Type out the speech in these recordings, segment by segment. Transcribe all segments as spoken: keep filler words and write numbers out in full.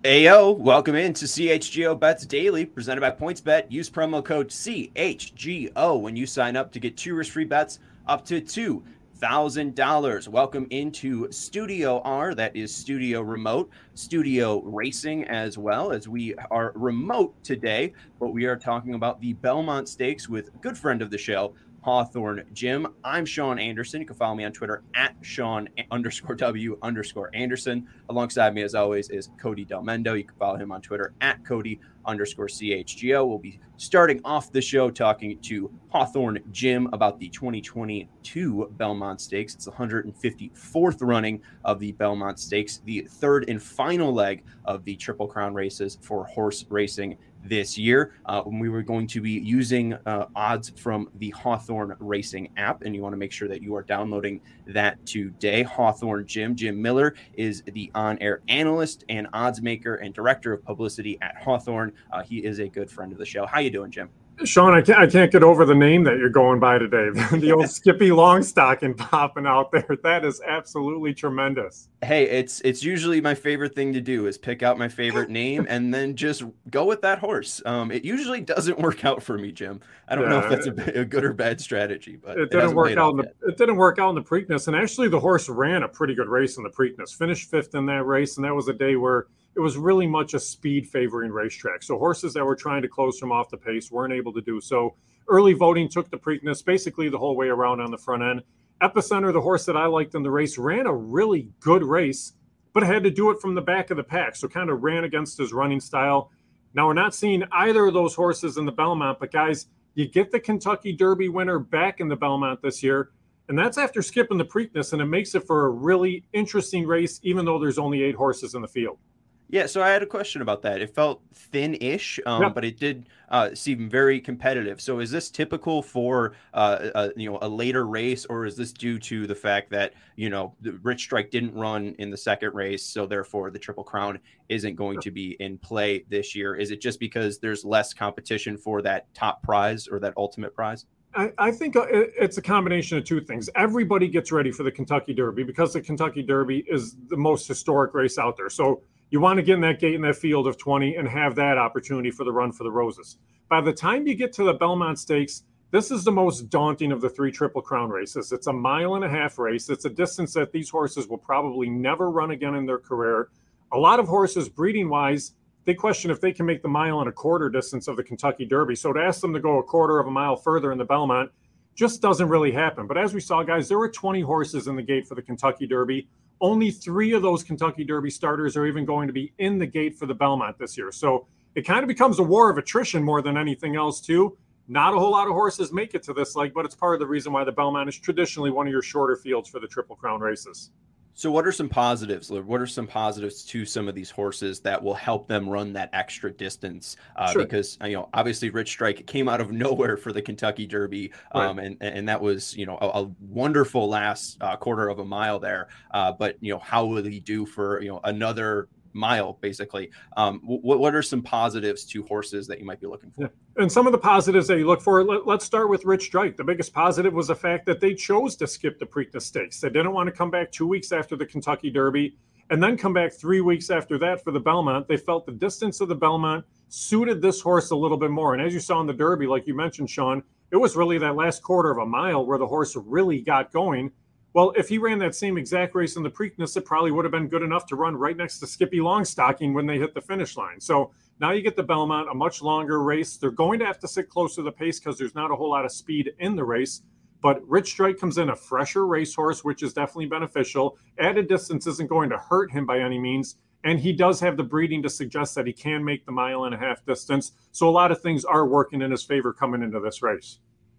Ayo, welcome into C H G O Bets Daily, presented by PointsBet. Use promo code C H G O when you sign up to get two risk-free bets up to two thousand dollars. Welcome into Studio R, that is Studio Remote, Studio Racing as well, as we are remote today, but we are talking about the Belmont Stakes with a good friend of the show, Hawthorne Jim. I'm Sean Anderson. You can follow me on Twitter at Sean underscore W underscore Anderson. Alongside me, as always, is Cody Delmendo. You can follow him on Twitter at Cody underscore C H G O. We'll be starting off the show talking to Hawthorne Jim about the twenty twenty-two Belmont Stakes. It's the one hundred fifty-fourth running of the Belmont Stakes, the third and final leg of the Triple Crown races for horse racing this year. Uh, we were going to be using uh, odds from the Hawthorne Racing app, and you want to make sure that you are downloading that today. Hawthorne Jim, Jim Miller, is the on-air analyst and odds maker and director of publicity at Hawthorne. Uh, he is a good friend of the show. How you doing, Jim? Sean, I can't, I can't get over the name that you're going by today. The old Skippy Longstocking popping out there. That is absolutely tremendous. Hey, it's it's usually my favorite thing to do is pick out my favorite name and then just go with that horse. Um, it usually doesn't work out for me, Jim. I don't yeah, know if that's a, a good or bad strategy, but it, it didn't work out. In the, it didn't work out in the Preakness, and actually the horse ran a pretty good race in the Preakness. Finished fifth in that race, and that was a day where it was really much a speed favoring racetrack. So horses that were trying to close from off the pace weren't able to do so. Early voting took the Preakness basically the whole way around on the front end. Epicenter, the horse that I liked in the race, ran a really good race, but had to do it from the back of the pack. So kind of ran against his running style. Now we're not seeing either of those horses in the Belmont, but guys, you get the Kentucky Derby winner back in the Belmont this year. And that's after skipping the Preakness, and it makes it for a really interesting race, even though there's only eight horses in the field. Yeah, so I had a question about that. It felt thin-ish, um, yep. but it did uh, seem very competitive. So is this typical for uh, a, you know a later race, or is this due to the fact that you know the Rich Strike didn't run in the second race, so therefore the Triple Crown isn't going to be in play this year? Is it just because there's less competition for that top prize or that ultimate prize? I, I think it's a combination of two things. Everybody gets ready for the Kentucky Derby because the Kentucky Derby is the most historic race out there. So you want to get in that gate in that field of twenty and have that opportunity for the run for the roses. By the time you get to the Belmont Stakes, this is the most daunting of the three Triple Crown races. It's a mile and a half race. It's a distance that these horses will probably never run again in their career. A lot of horses, breeding-wise, they question if they can make the mile and a quarter distance of the Kentucky Derby. So to ask them to go a quarter of a mile further in the Belmont just doesn't really happen. But as we saw, guys, there were twenty horses in the gate for the Kentucky Derby. Only three of those Kentucky Derby starters are even going to be in the gate for the Belmont this year. So it kind of becomes a war of attrition more than anything else, too. Not a whole lot of horses make it to this leg, but it's part of the reason why the Belmont is traditionally one of your shorter fields for the Triple Crown races. So what are some positives, Liv? What are some positives to some of these horses that will help them run that extra distance? Uh, sure. Because, you know, obviously Rich Strike came out of nowhere for the Kentucky Derby, um, right. and, and that was, you know, a, a wonderful last uh, quarter of a mile there. Uh, but, you know, how will he do for, you know, another mile, basically? Um, what, what are some positives to horses that you might be looking for? Yeah. And some of the positives that you look for, let, let's start with Rich Strike. The biggest positive was the fact that they chose to skip the Preakness Stakes. They didn't want to come back two weeks after the Kentucky Derby and then come back three weeks after that for the Belmont. They felt the distance of the Belmont suited this horse a little bit more. And as you saw in the Derby, like you mentioned, Sean, it was really that last quarter of a mile where the horse really got going. Well, if he ran that same exact race in the Preakness, it probably would have been good enough to run right next to Skippy Longstocking when they hit the finish line. So now you get the Belmont, a much longer race. They're going to have to sit close to the pace because there's not a whole lot of speed in the race. But Rich Strike comes in a fresher racehorse, which is definitely beneficial. Added distance isn't going to hurt him by any means. And he does have the breeding to suggest that he can make the mile and a half distance. So a lot of things are working in his favor coming into this race.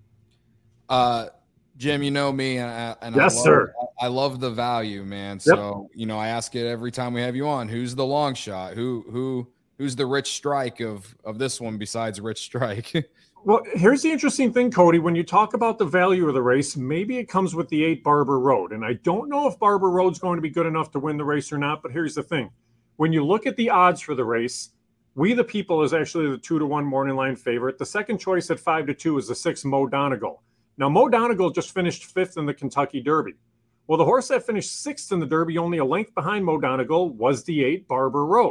Uh Jim, you know me, and I, and yes, I love, sir. I love the value, man. So, yep. you know, I ask it every time we have you on. Who's the long shot? Who, who, who's the Rich Strike of of this one besides Rich Strike? Well, here's the interesting thing, Cody. When you talk about the value of the race, maybe it comes with the eight Barber Road, and I don't know if Barber Road's going to be good enough to win the race or not. But here's the thing: when you look at the odds for the race, We the People is actually the two to one morning line favorite. The second choice at five to two is the six Mo Donegal. Now, Mo Donegal just finished fifth in the Kentucky Derby. Well, the horse that finished sixth in the Derby, only a length behind Mo Donegal, was the eight Barber Road.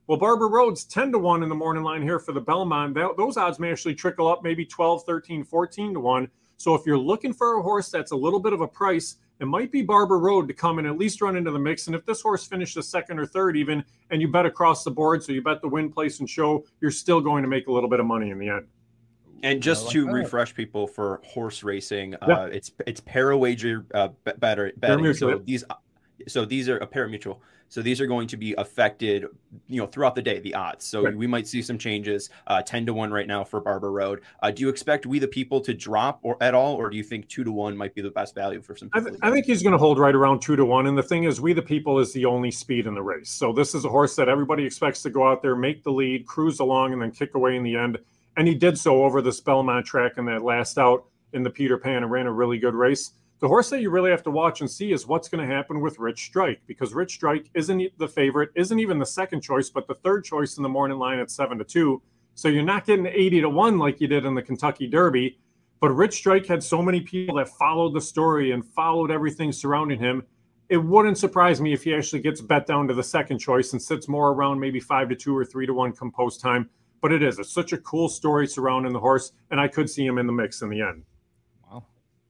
Well, Barber Road's ten to one in the morning line here for the Belmont. That, those odds may actually trickle up maybe twelve, thirteen, fourteen to one. So if you're looking for a horse that's a little bit of a price, it might be Barber Road to come and at least run into the mix. And if this horse finishes second or third even, and you bet across the board, so you bet the win, place, and show, you're still going to make a little bit of money in the end. And just like to that. refresh people for horse racing, yeah. uh, it's it's para-wager uh, better betting. So these so these are a pari-mutuel. So these are going to be affected, you know, throughout the day, the odds. So right. we might see some changes, uh, ten to one right now for Barber Road. Uh, do you expect We the People to drop or at all, or do you think two to one might be the best value for some people? I, th- I think he's going to hold right around two to one. And the thing is, We the People is the only speed in the race. So this is a horse that everybody expects to go out there, make the lead, cruise along, and then kick away in the end. And he did so over the Belmont track in that last out in the Peter Pan and ran a really good race. The horse that you really have to watch and see is what's going to happen with Rich Strike, because Rich Strike isn't the favorite, isn't even the second choice, but the third choice in the morning line at seven to two. So you're not getting eighty to one like you did in the Kentucky Derby. But Rich Strike had so many people that followed the story and followed everything surrounding him. It wouldn't surprise me if he actually gets bet down to the second choice and sits more around maybe five to two or three to one come post time. But it is. It's such a cool story surrounding the horse, and I could see him in the mix in the end. Wow.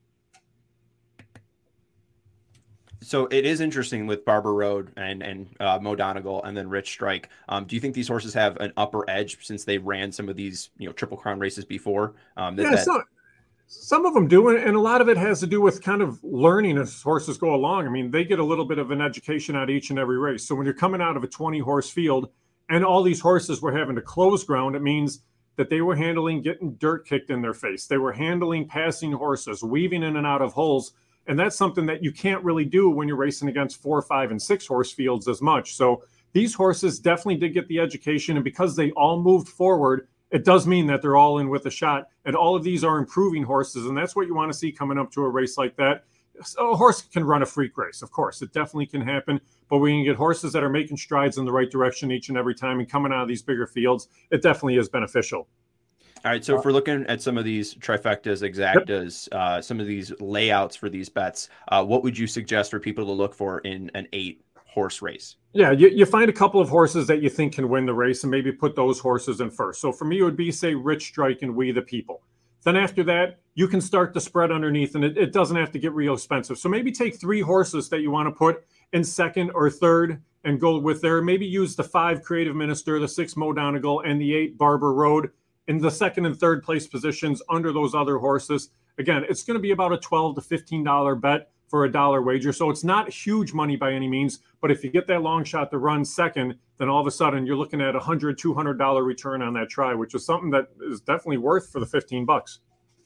So it is interesting with Barber Road and and uh, Mo Donegal and then Rich Strike. Um, do you think these horses have an upper edge since they ran some of these, you know, Triple Crown races before? Um, that, yeah, that... some, some of them do, and a lot of it has to do with kind of learning as horses go along. I mean, they get a little bit of an education out of each and every race. So when you're coming out of a twenty-horse field, and all these horses were having to close ground, it means that they were handling getting dirt kicked in their face. They were handling passing horses, weaving in and out of holes. And that's something that you can't really do when you're racing against four, five, and six horse fields as much. So these horses definitely did get the education. And because they all moved forward, it does mean that they're all in with a shot. And all of these are improving horses. And that's what you want to see coming up to a race like that. So a horse can run a freak race, of course. It definitely can happen. But when you get horses that are making strides in the right direction each and every time and coming out of these bigger fields, it definitely is beneficial. All right, so if we're looking at some of these trifectas, exactas, yep. uh, some of these layouts for these bets, uh, what would you suggest for people to look for in an eight-horse race? Yeah, you, you find a couple of horses that you think can win the race and maybe put those horses in first. So for me, it would be, say, Rich Strike and We the People. Then after that, you can start the spread underneath, and it, it doesn't have to get real expensive. So maybe take three horses that you want to put in second or third and go with there. Maybe use the five Creative Minister, the six Mo Donegal, and the eight Barber Road in the second and third place positions under those other horses. Again, it's going to be about a twelve to fifteen dollars bet for a dollar wager. So it's not huge money by any means, but if you get that long shot to run second, then all of a sudden you're looking at a one hundred dollars, two hundred dollars return on that try, which is something that is definitely worth for the fifteen bucks.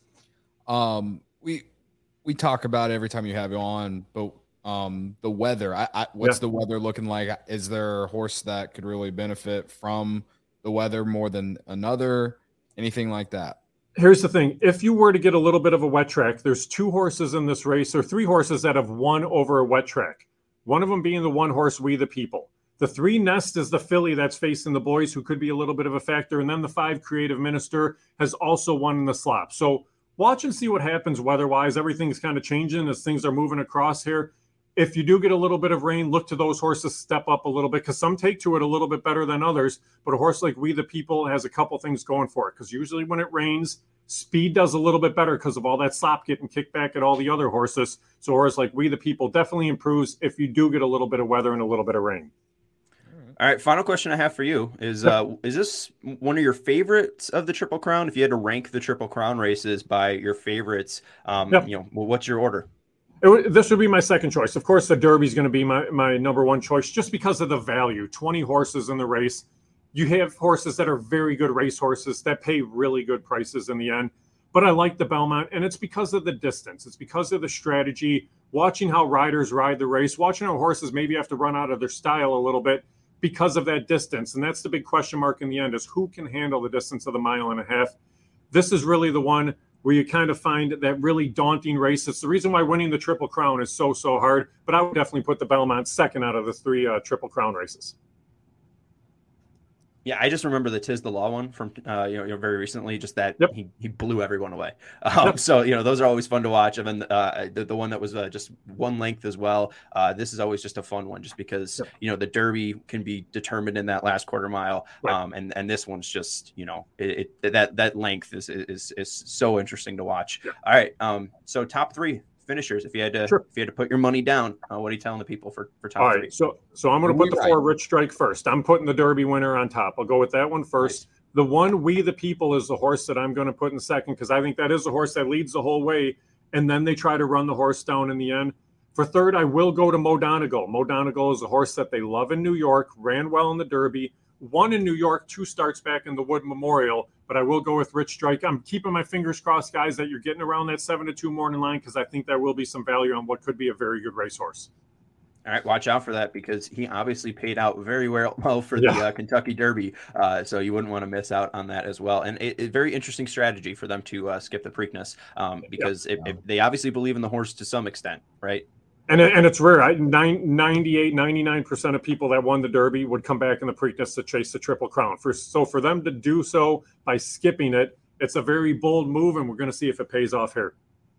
Um, we, we talk about it every time you have you on, but um, the weather, I, I what's yeah. the weather looking like? Is there a horse that could really benefit from the weather more than another? Anything like that? Here's the thing. If you were to get a little bit of a wet track, there's two horses in this race, or three horses that have won over a wet track. One of them being the one horse, We the People. The three Nest is the filly that's facing the boys, who could be a little bit of a factor. And then the five Creative Minister has also won in the slop. So watch and see what happens weather-wise. Everything's kind of changing as things are moving across here. If you do get a little bit of rain, look to those horses step up a little bit, because some take to it a little bit better than others. But a horse like We the People has a couple things going for it, because usually when it rains, speed does a little bit better because of all that slop getting kicked back at all the other horses. So a horse like We the People definitely improves if you do get a little bit of weather and a little bit of rain. All right, final question I have for you is, uh, is this one of your favorites of the Triple Crown? If you had to rank the Triple Crown races by your favorites, um, yep. you know, well, what's your order? It, this would be my second choice. Of course, the Derby is going to be my, my number one choice just because of the value. twenty horses in the race. You have horses that are very good race horses that pay really good prices in the end. But I like the Belmont, and it's because of the distance. It's because of the strategy, watching how riders ride the race, watching how horses maybe have to run out of their style a little bit because of that distance. And that's the big question mark in the end, is who can handle the distance of the mile and a half. This is really the one where you kind of find that really daunting race. It's the reason why winning the Triple Crown is so, so hard. But I would definitely put the Belmont second out of the three uh, Triple Crown races. Yeah, I just remember the Tiz the Law one from uh, you know, you know very recently. Just that Yep. he, he blew everyone away. Um, yep. So you know those are always fun to watch. And then uh, the the one that was uh, just one length as well. Uh, this is always just a fun one, just because yep. you know the Derby can be determined in that last quarter mile. Right. Um, and and this one's just you know it, it that that length is is is so interesting to watch. Yep. All right. Um. So top three finishers. If you had to, sure. if you had to put your money down, uh, what are you telling the people for for top All three? Right, so so I'm going to put the right. four Rich Strike first. I'm putting the Derby winner on top. I'll go with that one first. Nice. The one We the People is the horse that I'm going to put in second, because I think that is the horse that leads the whole way, and then they try to run the horse down in the end. For third, I will go to Mo Donegal. Mo Donegal is a horse that they love in New York, ran well in the Derby, won in New York, two starts back in the Wood Memorial. But I will go with Rich Strike. I'm keeping my fingers crossed, guys, that you're getting around that seven to two morning line, because I think there will be some value on what could be a very good racehorse. All right, watch out for that, because he obviously paid out very well, well for the yeah. uh, Kentucky Derby, uh, so you wouldn't want to miss out on that as well. And it, it very interesting strategy for them to uh, skip the Preakness, um, because yep. it, it, they obviously believe in the horse to some extent, right? And and it's rare. I, ninety-eight, ninety-nine percent of people that won the Derby would come back in the Preakness to chase the Triple Crown. For so for them to do so by skipping it, it's a very bold move, and we're going to see if it pays off here.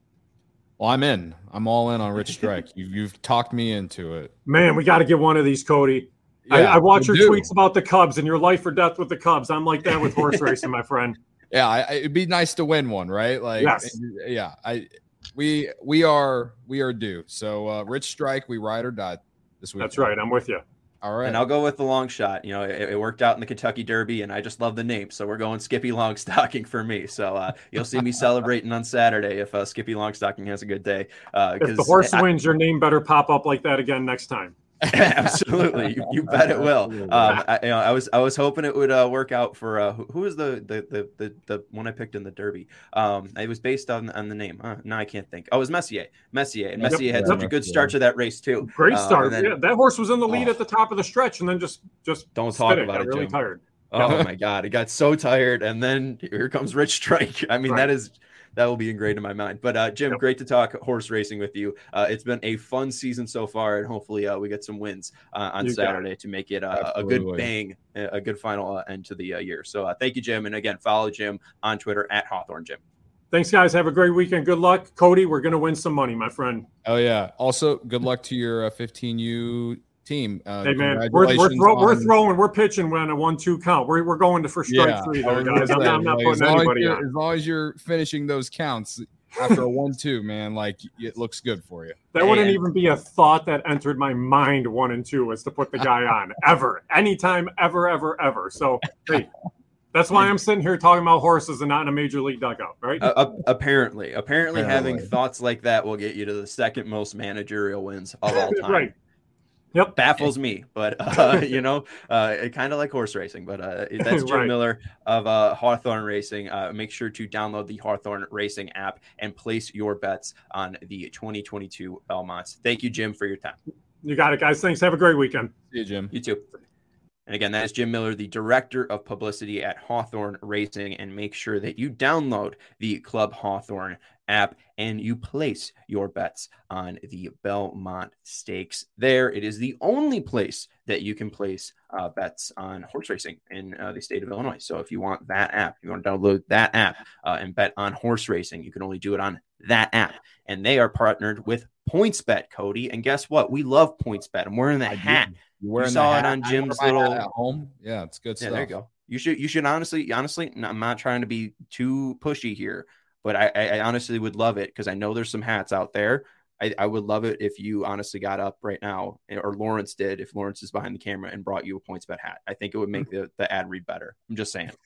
Well, I'm in. I'm all in on Rich Strike. You've, you've talked me into it. Man, we got to get one of these, Cody. Yeah, I, I watch your do. tweets about the Cubs and your life or death with the Cubs. I'm like that with horse racing, my friend. Yeah, I, it'd be nice to win one, right? Like, yes. yeah, I. We we are we are due. So uh, Rich Strike, we ride or die this week. That's right. I'm with you. All right. And I'll go with the long shot. You know, it, it worked out in the Kentucky Derby, and I just love the name. So we're going Skippy Longstocking for me. So uh, you'll see me celebrating on Saturday if uh, Skippy Longstocking has a good day. Uh, if the horse I, wins, your name better pop up like that again next time. Absolutely, you, you bet it will. Um, I, you know, I was I was hoping it would uh, work out for uh, who, who was the the, the the the one I picked in the Derby. Um, it was based on on the name. Uh, no, I can't think. Oh, it was Messier. Messier, and Messier yep. had such a good start to that race too. Great start. Um, then, yeah, that horse was in the lead oh, at the top of the stretch, and then just just don't talk about it. it. Really Jim. tired. Oh my God, it got so tired, and then here comes Rich Strike. I mean, right. that is. That will be ingrained in my mind. But uh, Jim, yep. great to talk horse racing with you. Uh, it's been a fun season so far, and hopefully uh, we get some wins uh, on you Saturday to make it uh, a good bang, a good final uh, end to the uh, year. So uh, thank you, Jim. And again, follow Jim on Twitter at Hawthorne Jim. Thanks, guys. Have a great weekend. Good luck. Cody, we're going to win some money, my friend. Oh, yeah. Also, good luck to your uh, fifteen U team. Uh, hey, man, we're, we're, throw, on... we're throwing, we're pitching when a one two count. We're, we're going to for strike yeah, three there, guys. I'm, I'm not like, putting anybody on. As long as you're finishing those counts after a one two, man, like it looks good for you. That wouldn't even be a thought that entered my mind, one and two, was to put the guy on, ever, anytime, ever, ever, ever. So, hey, that's why I'm sitting here talking about horses and not in a major league dugout, right? Uh, apparently. Apparently, having thoughts like that will get you to the second most managerial wins of all time. Right. Yep. Baffles me, but uh, you know, uh, kind of like horse racing. But uh, that's Jim right. Miller of uh, Hawthorne Racing. Uh, make sure to download the Hawthorne Racing app and place your bets on the twenty twenty-two Belmonts. Thank you, Jim, for your time. You got it, guys. Thanks. Have a great weekend. See you, Jim. You too. And again, that is Jim Miller, the director of publicity at Hawthorne Racing. And make sure that you download the Club Hawthorne app and you place your bets on the Belmont Stakes there. It is the only place that you can place uh, bets on horse racing in uh, the state of Illinois. So if you want that app, you want to download that app uh, and bet on horse racing, you can only do it on that app. And they are partnered with PointsBet, Cody. And guess what? We love PointsBet. I'm wearing the I hat. You saw it on Jim's little at home. Yeah, it's good yeah, stuff. There you go. You should you should honestly, honestly, I'm not trying to be too pushy here, but I, I honestly would love it because I know there's some hats out there. I, I would love it if you honestly got up right now, or Lawrence did, if Lawrence is behind the camera and brought you a PointsBet hat. I think it would make the, the ad read better. I'm just saying.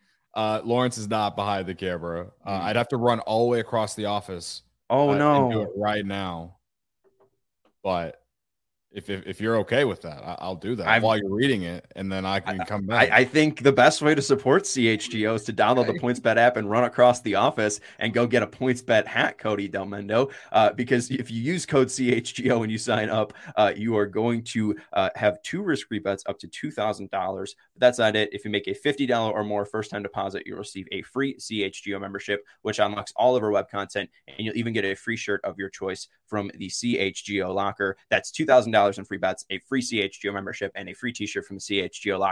Uh, Lawrence is not behind the camera. Uh, mm. I'd have to run all the way across the office. Oh, uh, no. And do it right now. But If, if if you're okay with that, I, I'll do that I've, while you're reading it, and then I can come back. I, I think the best way to support C H G O is to download the PointsBet app and run across the office and go get a PointsBet hat, Cody Delmendo. Uh, because if you use code C H G O when you sign up, uh, you are going to uh, have two risk-free bets up to two thousand dollars. But that's not it. If you make a fifty dollars or more first-time deposit, you'll receive a free C H G O membership, which unlocks all of our web content, and you'll even get a free shirt of your choice from the C H G O locker. That's two thousand dollars in free bets, a free C H G O membership, and a free t-shirt from the C H G O locker,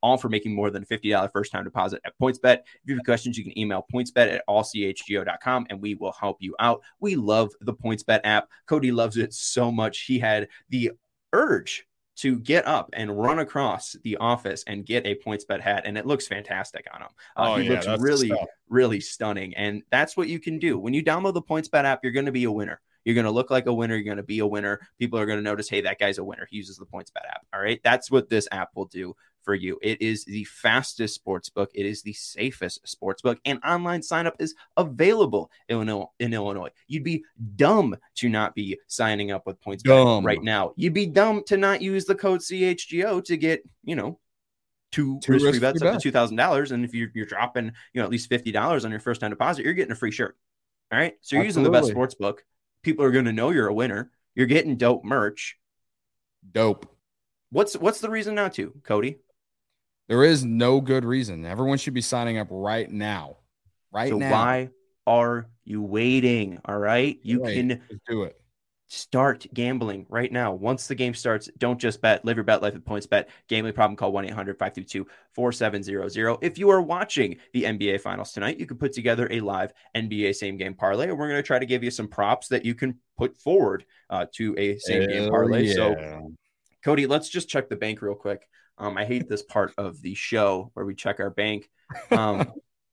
all for making more than a fifty dollars first time deposit at PointsBet. If you have questions, you can email pointsbet at all c h g o dot com and we will help you out. We love the PointsBet app. Cody loves it so much. He had the urge to get up and run across the office and get a PointsBet hat, and it looks fantastic on him. Uh, Oh, he yeah, looks that's really, the stuff. really stunning, and that's what you can do. When you download the PointsBet app, you're going to be a winner. You're going to look like a winner. You're going to be a winner. People are going to notice, hey, that guy's a winner. He uses the PointsBet app. All right. That's what this app will do for you. It is the fastest sports book. It is the safest sports book, and online sign up is available in Illinois. You'd be dumb to not be signing up with PointsBet Dumb. right now. You'd be dumb to not use the code C H G O to get, you know, two, Two risk-free risk-free bets up to bets. two thousand dollars. And if you're, you're dropping, you know, at least fifty dollars on your first time deposit, you're getting a free shirt. All right. So you're using the best Absolutely. sports book. People are going to know you're a winner. You're getting dope merch. Dope. What's what's the reason not to, Cody? There is no good reason. Everyone should be signing up right now. Right so now. why are you waiting? All right. You Right. can Just do it. start gambling right now. Once the game starts, don't just bet. Live your bet life with PointsBet. Gambling problem, call one eight hundred five two two four seven zero zero. If you are watching the N B A Finals tonight, you can put together a live N B A same game parlay, and we're going to try to give you some props that you can put forward uh, to a same game Hell parlay. yeah. So, Cody, let's just check the bank real quick. Um, I hate this part of the show where we check our bank. Um,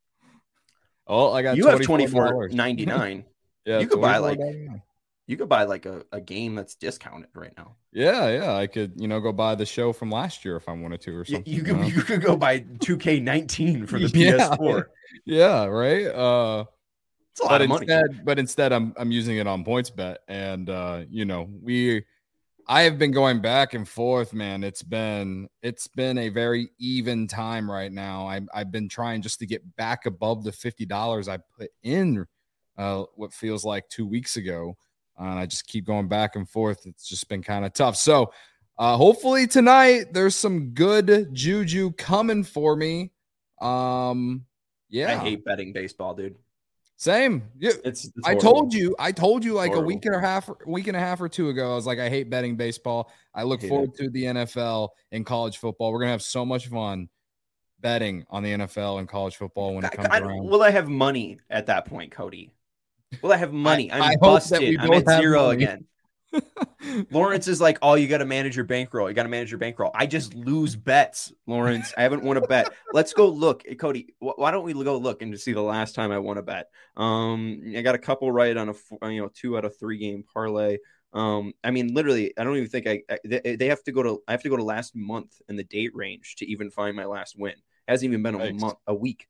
Oh, I got you have twenty-four twenty-four ninety-nine. Yeah, You could buy, twenty-four like- ninety-nine. You could buy like a, a game that's discounted right now. Yeah, yeah. I could, you know, go buy the show from last year if I wanted to or You, something. you you could know? you could go buy two K nineteen for the Yeah. P S four. Yeah, right. Uh It's a lot but of money. instead, but instead, I'm I'm using it on PointsBet, and uh, you know, we, I have been going back and forth, man. It's been it's been a very even time right now. I I've been trying just to get back above the fifty dollars I put in, uh, what feels like two weeks ago, uh, and I just keep going back and forth. It's just been kind of tough. So, uh, hopefully tonight there's some good juju coming for me. Um, yeah, I hate betting baseball, dude. same. Yeah. It's, it's I horrible. told you, I told you like Horrible. a week and a half, week and a half or two ago. I was like, I hate betting baseball. I look Hate forward to the N F L and college football. We're gonna have so much fun betting on the N F L and college football when it comes I, I, around. will I have money at that point, Cody? Will I have money? I I'm hope that we busted. I'm both at have zero money. again. Lawrence is like, oh, you got to manage your bankroll. You got to manage your bankroll. I just lose bets, Lawrence. I haven't won a bet. Let's go look, Hey, Cody. Wh- why don't we go look and just see the last time I won a bet? Um, I got a couple right on a f- you know two out of three game parlay. Um, I mean, literally, I don't even think I, I they, they have to go to I have to go to last month in the date range to even find my last win. It hasn't even been a Thanks. month, a week.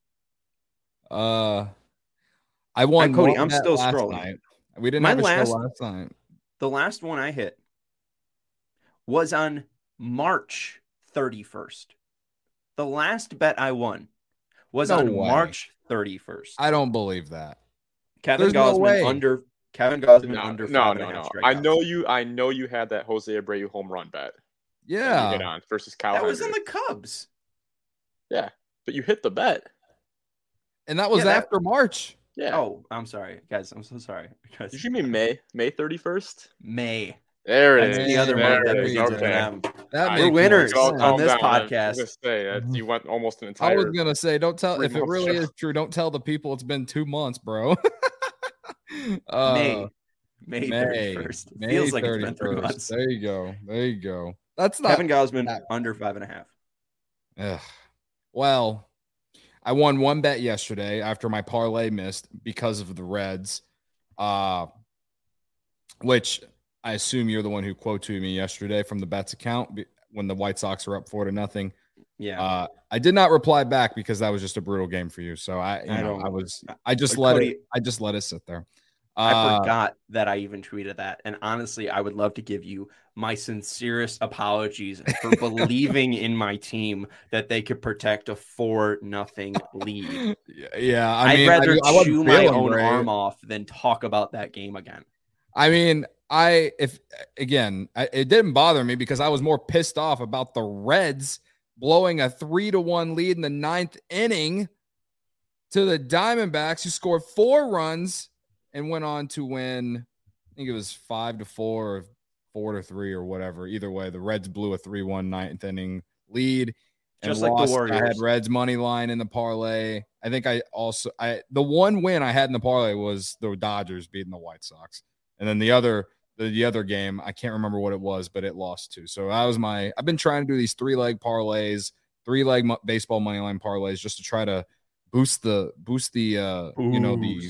Uh, I won. Hi, Cody, one I'm bet still last scrolling. night. We didn't My have a last- show last night. The last one I hit was on March thirty-first. The last bet I won was No on way. March thirty-first. I don't believe that. Kevin there's no Gosman way. under Kevin Gosman No, under no, five and no, a half no. strikeouts. I know you. I know you had that Jose Abreu home run bet. that you Yeah, hit on versus Kyle. that was on Hendricks. the Cubs. Yeah, but you hit the bet. and that was Yeah, that- after March. Yeah. Oh, I'm sorry, guys. I'm so sorry. Guys, Did you mean May? May thirty-first? May. There it That's is. the other There month that it we is. did Okay. them. That I- makes We're more winners So I'll sense. on calm this down. I was podcast. gonna say that you went almost an I entire. was gonna say, don't tell if it three-month really show. is true. Don't tell the people it's been two months, bro. uh, May. May May thirty-first. May Feels like it's been three thirty-first. months. There you go. There you go. That's not. Kevin Gosman that- under five and a half. Ugh. Well, I won one bet yesterday after my parlay missed because of the Reds, uh, which I assume you're the one who quote to me yesterday from the bets account be- when the White Sox are up four to nothing. Yeah. Uh, I did not reply back because that was just a brutal game for you. So I, you I know, don't- I was, I just But let Cody- it, I just let it sit there. I Uh, forgot that I even tweeted that. And honestly, I would love to give you my sincerest apologies for believing in my team that they could protect a four nothing lead. Yeah, I I'd mean, I rather do- I wasn't chew my feeling own great. arm off than talk about that game again. I mean, I if again, I, it didn't bother me because I was more pissed off about the Reds blowing a three to one lead in the ninth inning to the Diamondbacks, who scored four runs and went on to win. I think it was five to four or four to three or whatever. Either way, the Reds blew a three one ninth inning lead. and Just like the lost. Warriors. I had Reds money line in the parlay. I think I also I the one win I had in the parlay was the Dodgers beating the White Sox, and then the other the, the other game I can't remember what it was, but it lost too. So that was my. I've been trying to do these three leg parlays, three leg mo- baseball money line parlays, just to try to boost the boost the uh Boost. you know the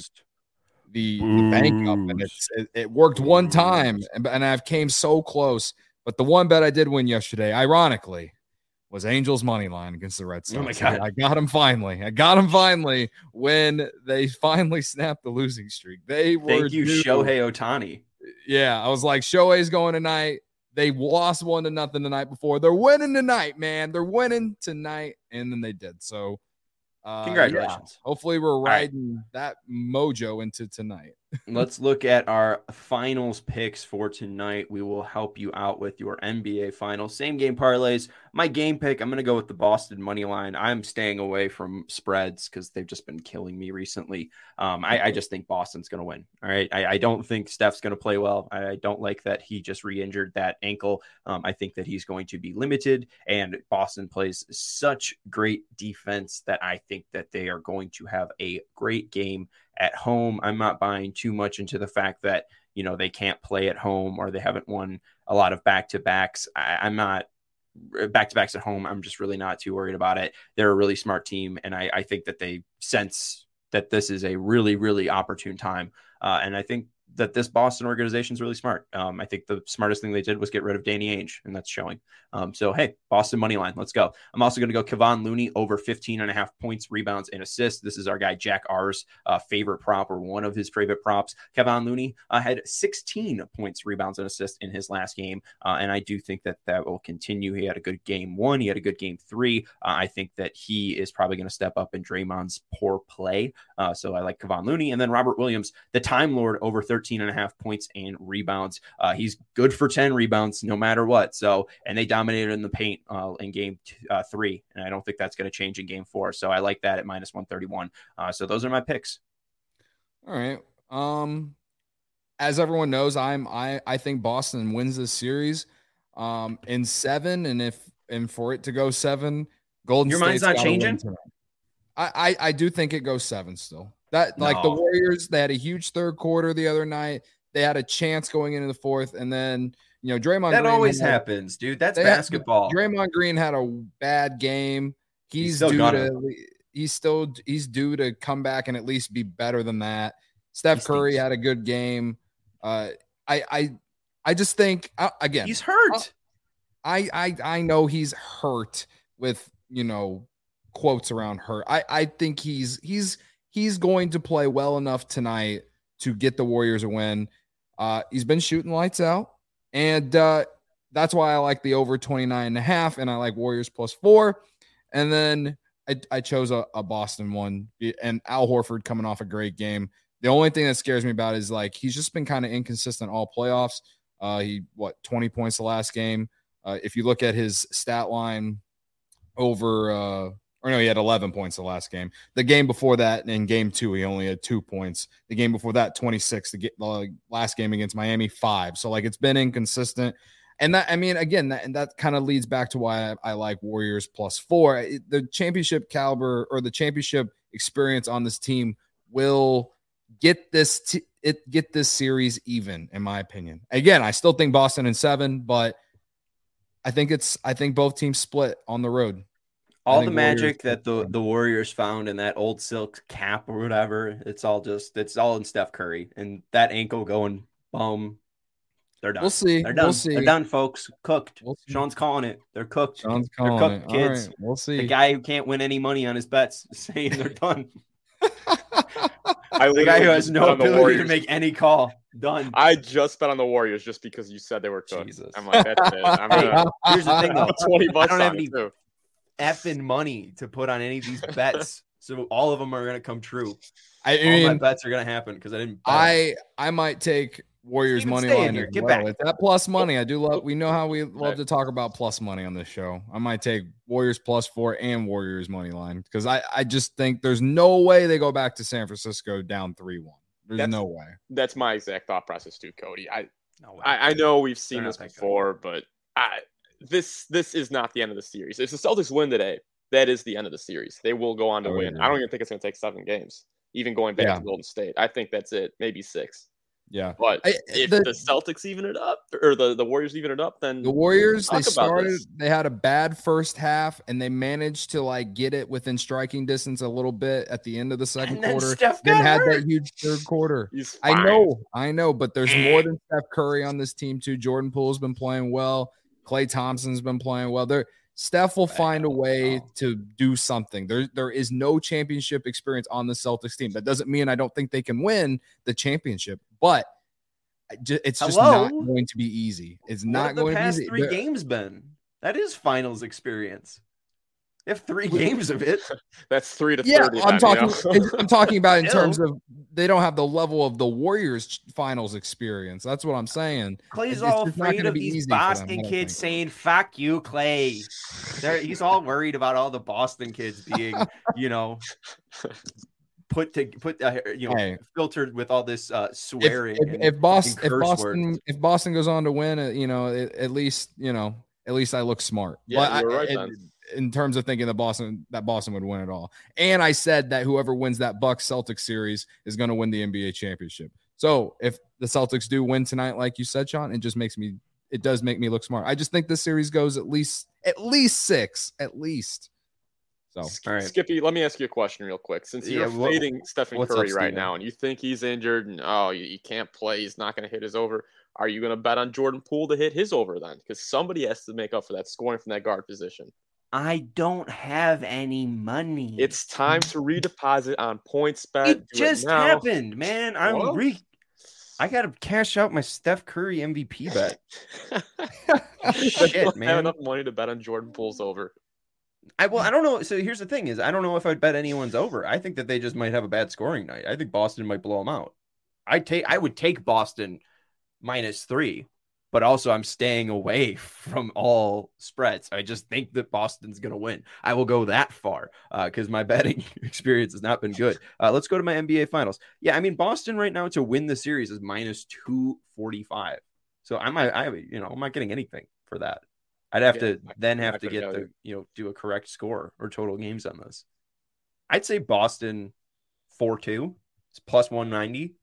the, the bank up, and it's, it, it worked one time, and, and I've came so close. But the one bet I did win yesterday, ironically, was Angels money line against the Red Sox. Oh my God. I got him finally. I got him finally when they finally snapped the losing streak. They were Thank you, due. Shohei Ohtani. Yeah, I was like, Shohei's going tonight. They lost one to nothing the night before. They're winning tonight, man. They're winning tonight, and then they did. So, uh, congratulations. Yeah. Hopefully, we're right. riding that mojo into tonight. Let's look at our finals picks for tonight. We will help you out with your N B A finals. Same game parlays. My game pick, I'm going to go with the Boston money line. I'm staying away from spreads because they've just been killing me recently. Um, I, I just think Boston's going to win. All right. I, I don't think Steph's going to play well. I don't like that he just re-injured that ankle. Um, I think that he's going to be limited, and Boston plays such great defense that I think that they are going to have a great game at home. I'm not buying too much into the fact that, you know, they can't play at home or they haven't won a lot of back-to-backs. I, I'm not back-to-backs at home. I'm just really not too worried about it. They're a really smart team, and I, I think that they sense that this is a really, really opportune time. Uh, and I think that this Boston organization is really smart. Um, I think the smartest thing they did was get rid of Danny Ainge, and that's showing. Um, so, hey, Boston money line, let's go. I'm also going to go Kevon Looney over fifteen and a half points, rebounds, and assists. This is our guy Jack R's uh, favorite prop, or one of his favorite props. Kevon Looney uh, had sixteen points, rebounds, and assists in his last game, uh, and I do think that that will continue. He had a good game one. He had a good game three. Uh, I think that he is probably going to step up in Draymond's poor play. Uh, so I like Kevon Looney. And then Robert Williams, the Time Lord, over thirteen and a half points and rebounds. Uh, he's good for ten rebounds no matter what. So, and they dominated in the paint uh, in game t- uh, three. And I don't think that's going to change in game four. So I like that at minus one thirty-one. Uh, so those are my picks. All right. Um, as everyone knows, I'm, I, I think Boston wins this series um, in seven. And if, and for it to go seven, Golden Your State's mind's not gotta win changing? tonight. I, I, I do think it goes seven still. That like the No. Warriors, they had a huge third quarter the other night. They had a chance going into the fourth, and then you know Draymond. That Green always had, happens, dude. That's they had- basketball. Draymond Green had a bad game. He's, He's still due gonna. to he's still he's due to come back and at least be better than that. Steph He Curry stinks. had a good game. Uh, I I I just think uh, again He's hurt. I I I know he's hurt with you know quotes around hurt. I I think he's he's he's going to play well enough tonight to get the Warriors a win. Uh, he's been shooting lights out, and uh, that's why I like the over twenty-nine and a half, and I like Warriors plus four. And then I, I chose a, a Boston one, and Al Horford coming off a great game. The only thing that scares me about is like he's just been kind of inconsistent all playoffs. Uh, he what twenty points the last game. Uh, if you look at his stat line over, uh, or no, he had eleven points the last game. The game before that, in game two, he only had two points. The game before that, twenty-six. The, the last game against Miami, five. So like it's been inconsistent. And that, I mean, again, that, and that kind of leads back to why I, I like Warriors plus four. It, the championship caliber or the championship experience on this team will get this t- it get this series even, in my opinion. Again, I still think Boston in seven, but I think it's I think both teams split on the road. All I the think magic Warriors- that the, the Warriors found in that old silk cap or whatever, it's all just it's all in Steph Curry, and that ankle going boom. They're done. We'll see. They're done. We'll see. They're done, folks. Cooked. We'll see. Sean's calling it. They're cooked. John's They're calling cooked, it. All kids. right, we'll see. The guy who can't win any money on his bets is saying they're done. I The guy who has literally no bet on the ability to Warriors. make any call. Done. I just bet on the Warriors just because you said they were cooked. Jesus. I'm like, that's it. I'm Hey, gonna here's the thing, though. put twenty bucks I don't have on any- it too. Effing money to put on any of these bets. So all of them are going to come true. I All my mean, bets are going to happen because I didn't bet. I I might take Warriors Steven, money stay in line. here. as Get well. back. It's that plus money. I do love. We know how we love Right. to talk about plus money on this show. I might take Warriors plus four and Warriors money line because I I just think there's no way they go back to San Francisco down three one. There's That's- no way. That's my exact thought process too, Cody. I No way. I, I know we've seen They're this not that good. before, but I this this is not the end of the series. If the Celtics win today, that is the end of the series. They will go on to I would win. agree. I don't even think it's going to take seven games, even going back Yeah. to Golden State. I think that's it, maybe six. Yeah. But I- if the- the, Celtics even it up, or the, the Warriors even it up, then The Warriors, they talk about started, this. they had a bad first half, and they managed to like get it within striking distance a little bit at the end of the second And then quarter. Steph Then got had hurt. that huge third quarter. he's I fine. know, I know, but there's more than Steph Curry on this team too. Jordan Poole's been playing well. Klay Thompson's been playing well. There, Steph will find a way to do something. There, there is no championship experience on the Celtics team. That doesn't mean I don't think they can win the championship, but I ju- it's just Hello? not going to be easy. It's What not have the going to be past easy. three There- games been? That is finals experience. They have three games of it. That's three to Yeah, thirty. I'm then, talking. You know? I'm talking about in Still. terms of they don't have the level of the Warriors finals experience. That's what I'm saying. Clay's It's all just not afraid gonna of be these easy for them, I Boston don't kids think. saying "fuck you, Clay." They're, he's all worried about all the Boston kids being, you know, put to put uh, you know Hey. filtered with all this uh, If, swearing. if, and- if Boston, and if curse Boston, words. if Boston goes on to win, uh, you know, it, at least you know, at least I look smart. Yeah, But I- you're right, in- Ben. in terms of thinking that Boston that Boston would win it all. And I said that whoever wins that Bucks Celtics series is going to win the N B A championship. So if the Celtics do win tonight, like you said, Sean, it just makes me it does make me look smart. I just think this series goes at least at least six, at least. So all right. Skippy, let me ask you a question real quick. Since you're Yeah, what- fading Stephen what's up, Curry right Steven? now, and you think he's injured, and oh, you, you can't play, he's not going to hit his over. Are you going to bet on Jordan Poole to hit his over then? Because somebody has to make up for that scoring from that guard position. I don't have any money. It's time to redeposit on points bet. it Do just now. happened, man. I'm What? re. I gotta cash out my Steph Curry M V P bet. Shit, I don't man. have enough money to bet on Jordan Poole's over. I well, I don't know. So here's the thing: is I don't know if I'd bet anyone's over. I think that they just might have a bad scoring night. I think Boston might blow them out. I take I would take Boston minus three, but also I'm staying away from all spreads. I just think that Boston's gonna win. I will go that far because my betting experience has not been good. Uh, let's go to my N B A Finals. Yeah, I mean Boston right now to win the series is minus two forty five. So I might, I you know, I'm not getting anything for that. I'd have Yeah, to I'm not- then I'm have not to gonna get go the either. you know do a correct score or total games on this. I'd say Boston four two. It's plus one ninety.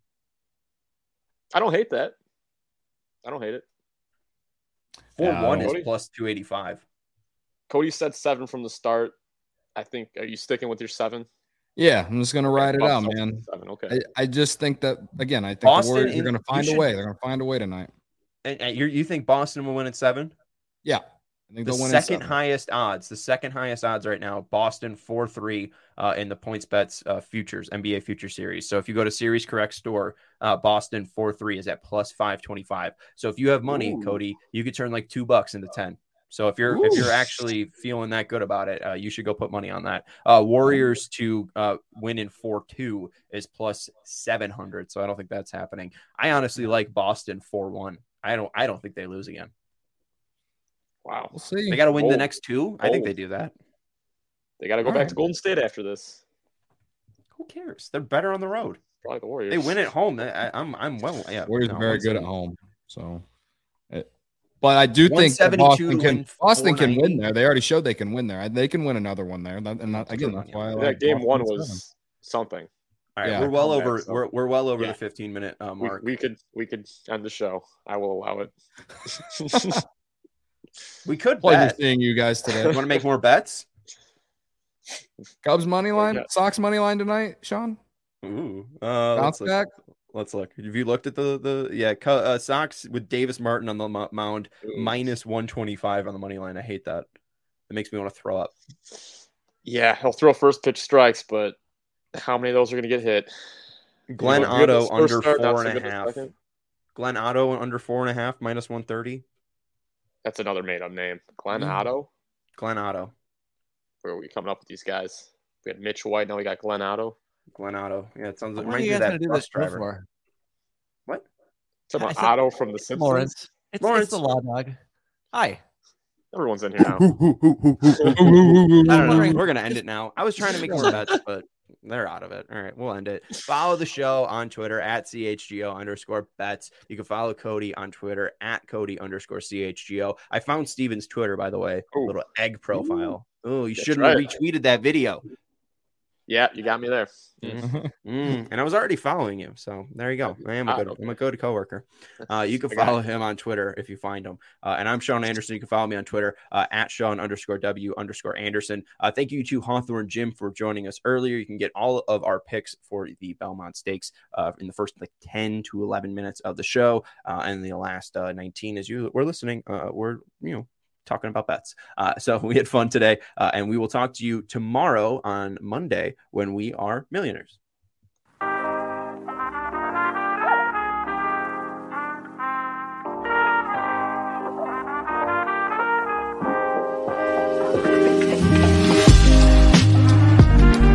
I don't hate that. I don't hate it. four one Yeah, is Cody? plus two eighty-five. Cody said seven from the start. I think. Are you sticking with your seven? yeah, I'm just gonna ride it Bucks out, Celtics man. Seven. Okay. I, I just think that again, I think Boston the Warriors in- are gonna you find a should- way. They're gonna find a way tonight. And, and you you think Boston will win at seven? Yeah. I think The they'll win in second seven. highest odds, the second highest odds right now, Boston four three uh, in the points bets uh, futures, N B A future series. So if you go to Series Correct Store, uh, Boston four three is at plus five twenty-five. So if you have money, Ooh. Cody, you could turn like two bucks into ten. So if you're if Ooh. you're actually feeling that good about it, uh, you should go put money on that. Uh, Warriors to uh, win in four two is plus seven hundred. So I don't think that's happening. I honestly like Boston four one. I don't I don't think they lose again. Wow. We'll see. They got to win the Bold. next two. I think they Bold. do that. They got to go All back right. to Golden State after this. Who cares? They're better on the road. Probably the Warriors. They win at home. I, I'm I'm well. Yeah, Warriors no, are very good at one seventy. home. So, it, but I do think that one seventy-two Boston to can win Boston can win four ninety. there. They already showed they can win there. They can win another one there. That, and not, again, True, that's yeah. why I that like game Boston one in was seven. something. All right, Yeah. we're well Comeback, over. so- We're we're well over Yeah. the fifteen minute uh, We, mark. we could we could end the show. I will allow it. We could Pleasure bet. seeing you guys You today. want to make more bets? Cubs money line, Yeah. Sox money line tonight, Sean. Ooh, uh, Bounce let's look. back. Let's look. Have you looked at the the yeah Co- uh, Sox with Davis Martin on the mo- mound Ooh. minus one twenty five on the money line? I hate that. It makes me want to throw up. Yeah, he'll throw first pitch strikes, but how many of those are going to get hit? Glenn You know, good Otto this first under start, not four so and a good this half. second. Glenn Otto under four and a half minus one thirty. That's another made-up name. Glenn Mm. Otto. Glenn Otto. Where are we coming up with these guys? We had Mitch White. Now we got Glenn Otto. Glenn Otto. Yeah, it sounds like What are reminds you me of guys that gonna do bus this show driver. for? What? Talking I about said- Otto from The Simpsons. Lawrence. It's, Lawrence. it's the law dog. Hi. Everyone's in here now. I don't know. We're gonna end it now. I was trying to make some bets, but they're out of it. All right, we'll end it. Follow the show on Twitter at C H G O underscore bets. You can follow Cody on Twitter at Cody underscore C H G O. I found Steven's Twitter, by the way, a little egg profile. Oh, you That's shouldn't right. have retweeted that video. Yeah, you got me there. Mm. Mm. And I was already following you, so there you go. I am a good, I'm a good coworker. Uh, you can follow him on Twitter if you find him. Uh, and I'm Sean Anderson. You can follow me on Twitter uh, at Sean underscore W underscore Anderson. Uh, thank you to Hawthorne Jim for joining us earlier. You can get all of our picks for the Belmont Stakes uh, in the first like ten to eleven minutes of the show, uh, and the last uh, nineteen as you were listening. Uh, we're you know. talking about bets. Uh, so we had fun today, uh, and we will talk to you tomorrow on Monday when we are millionaires.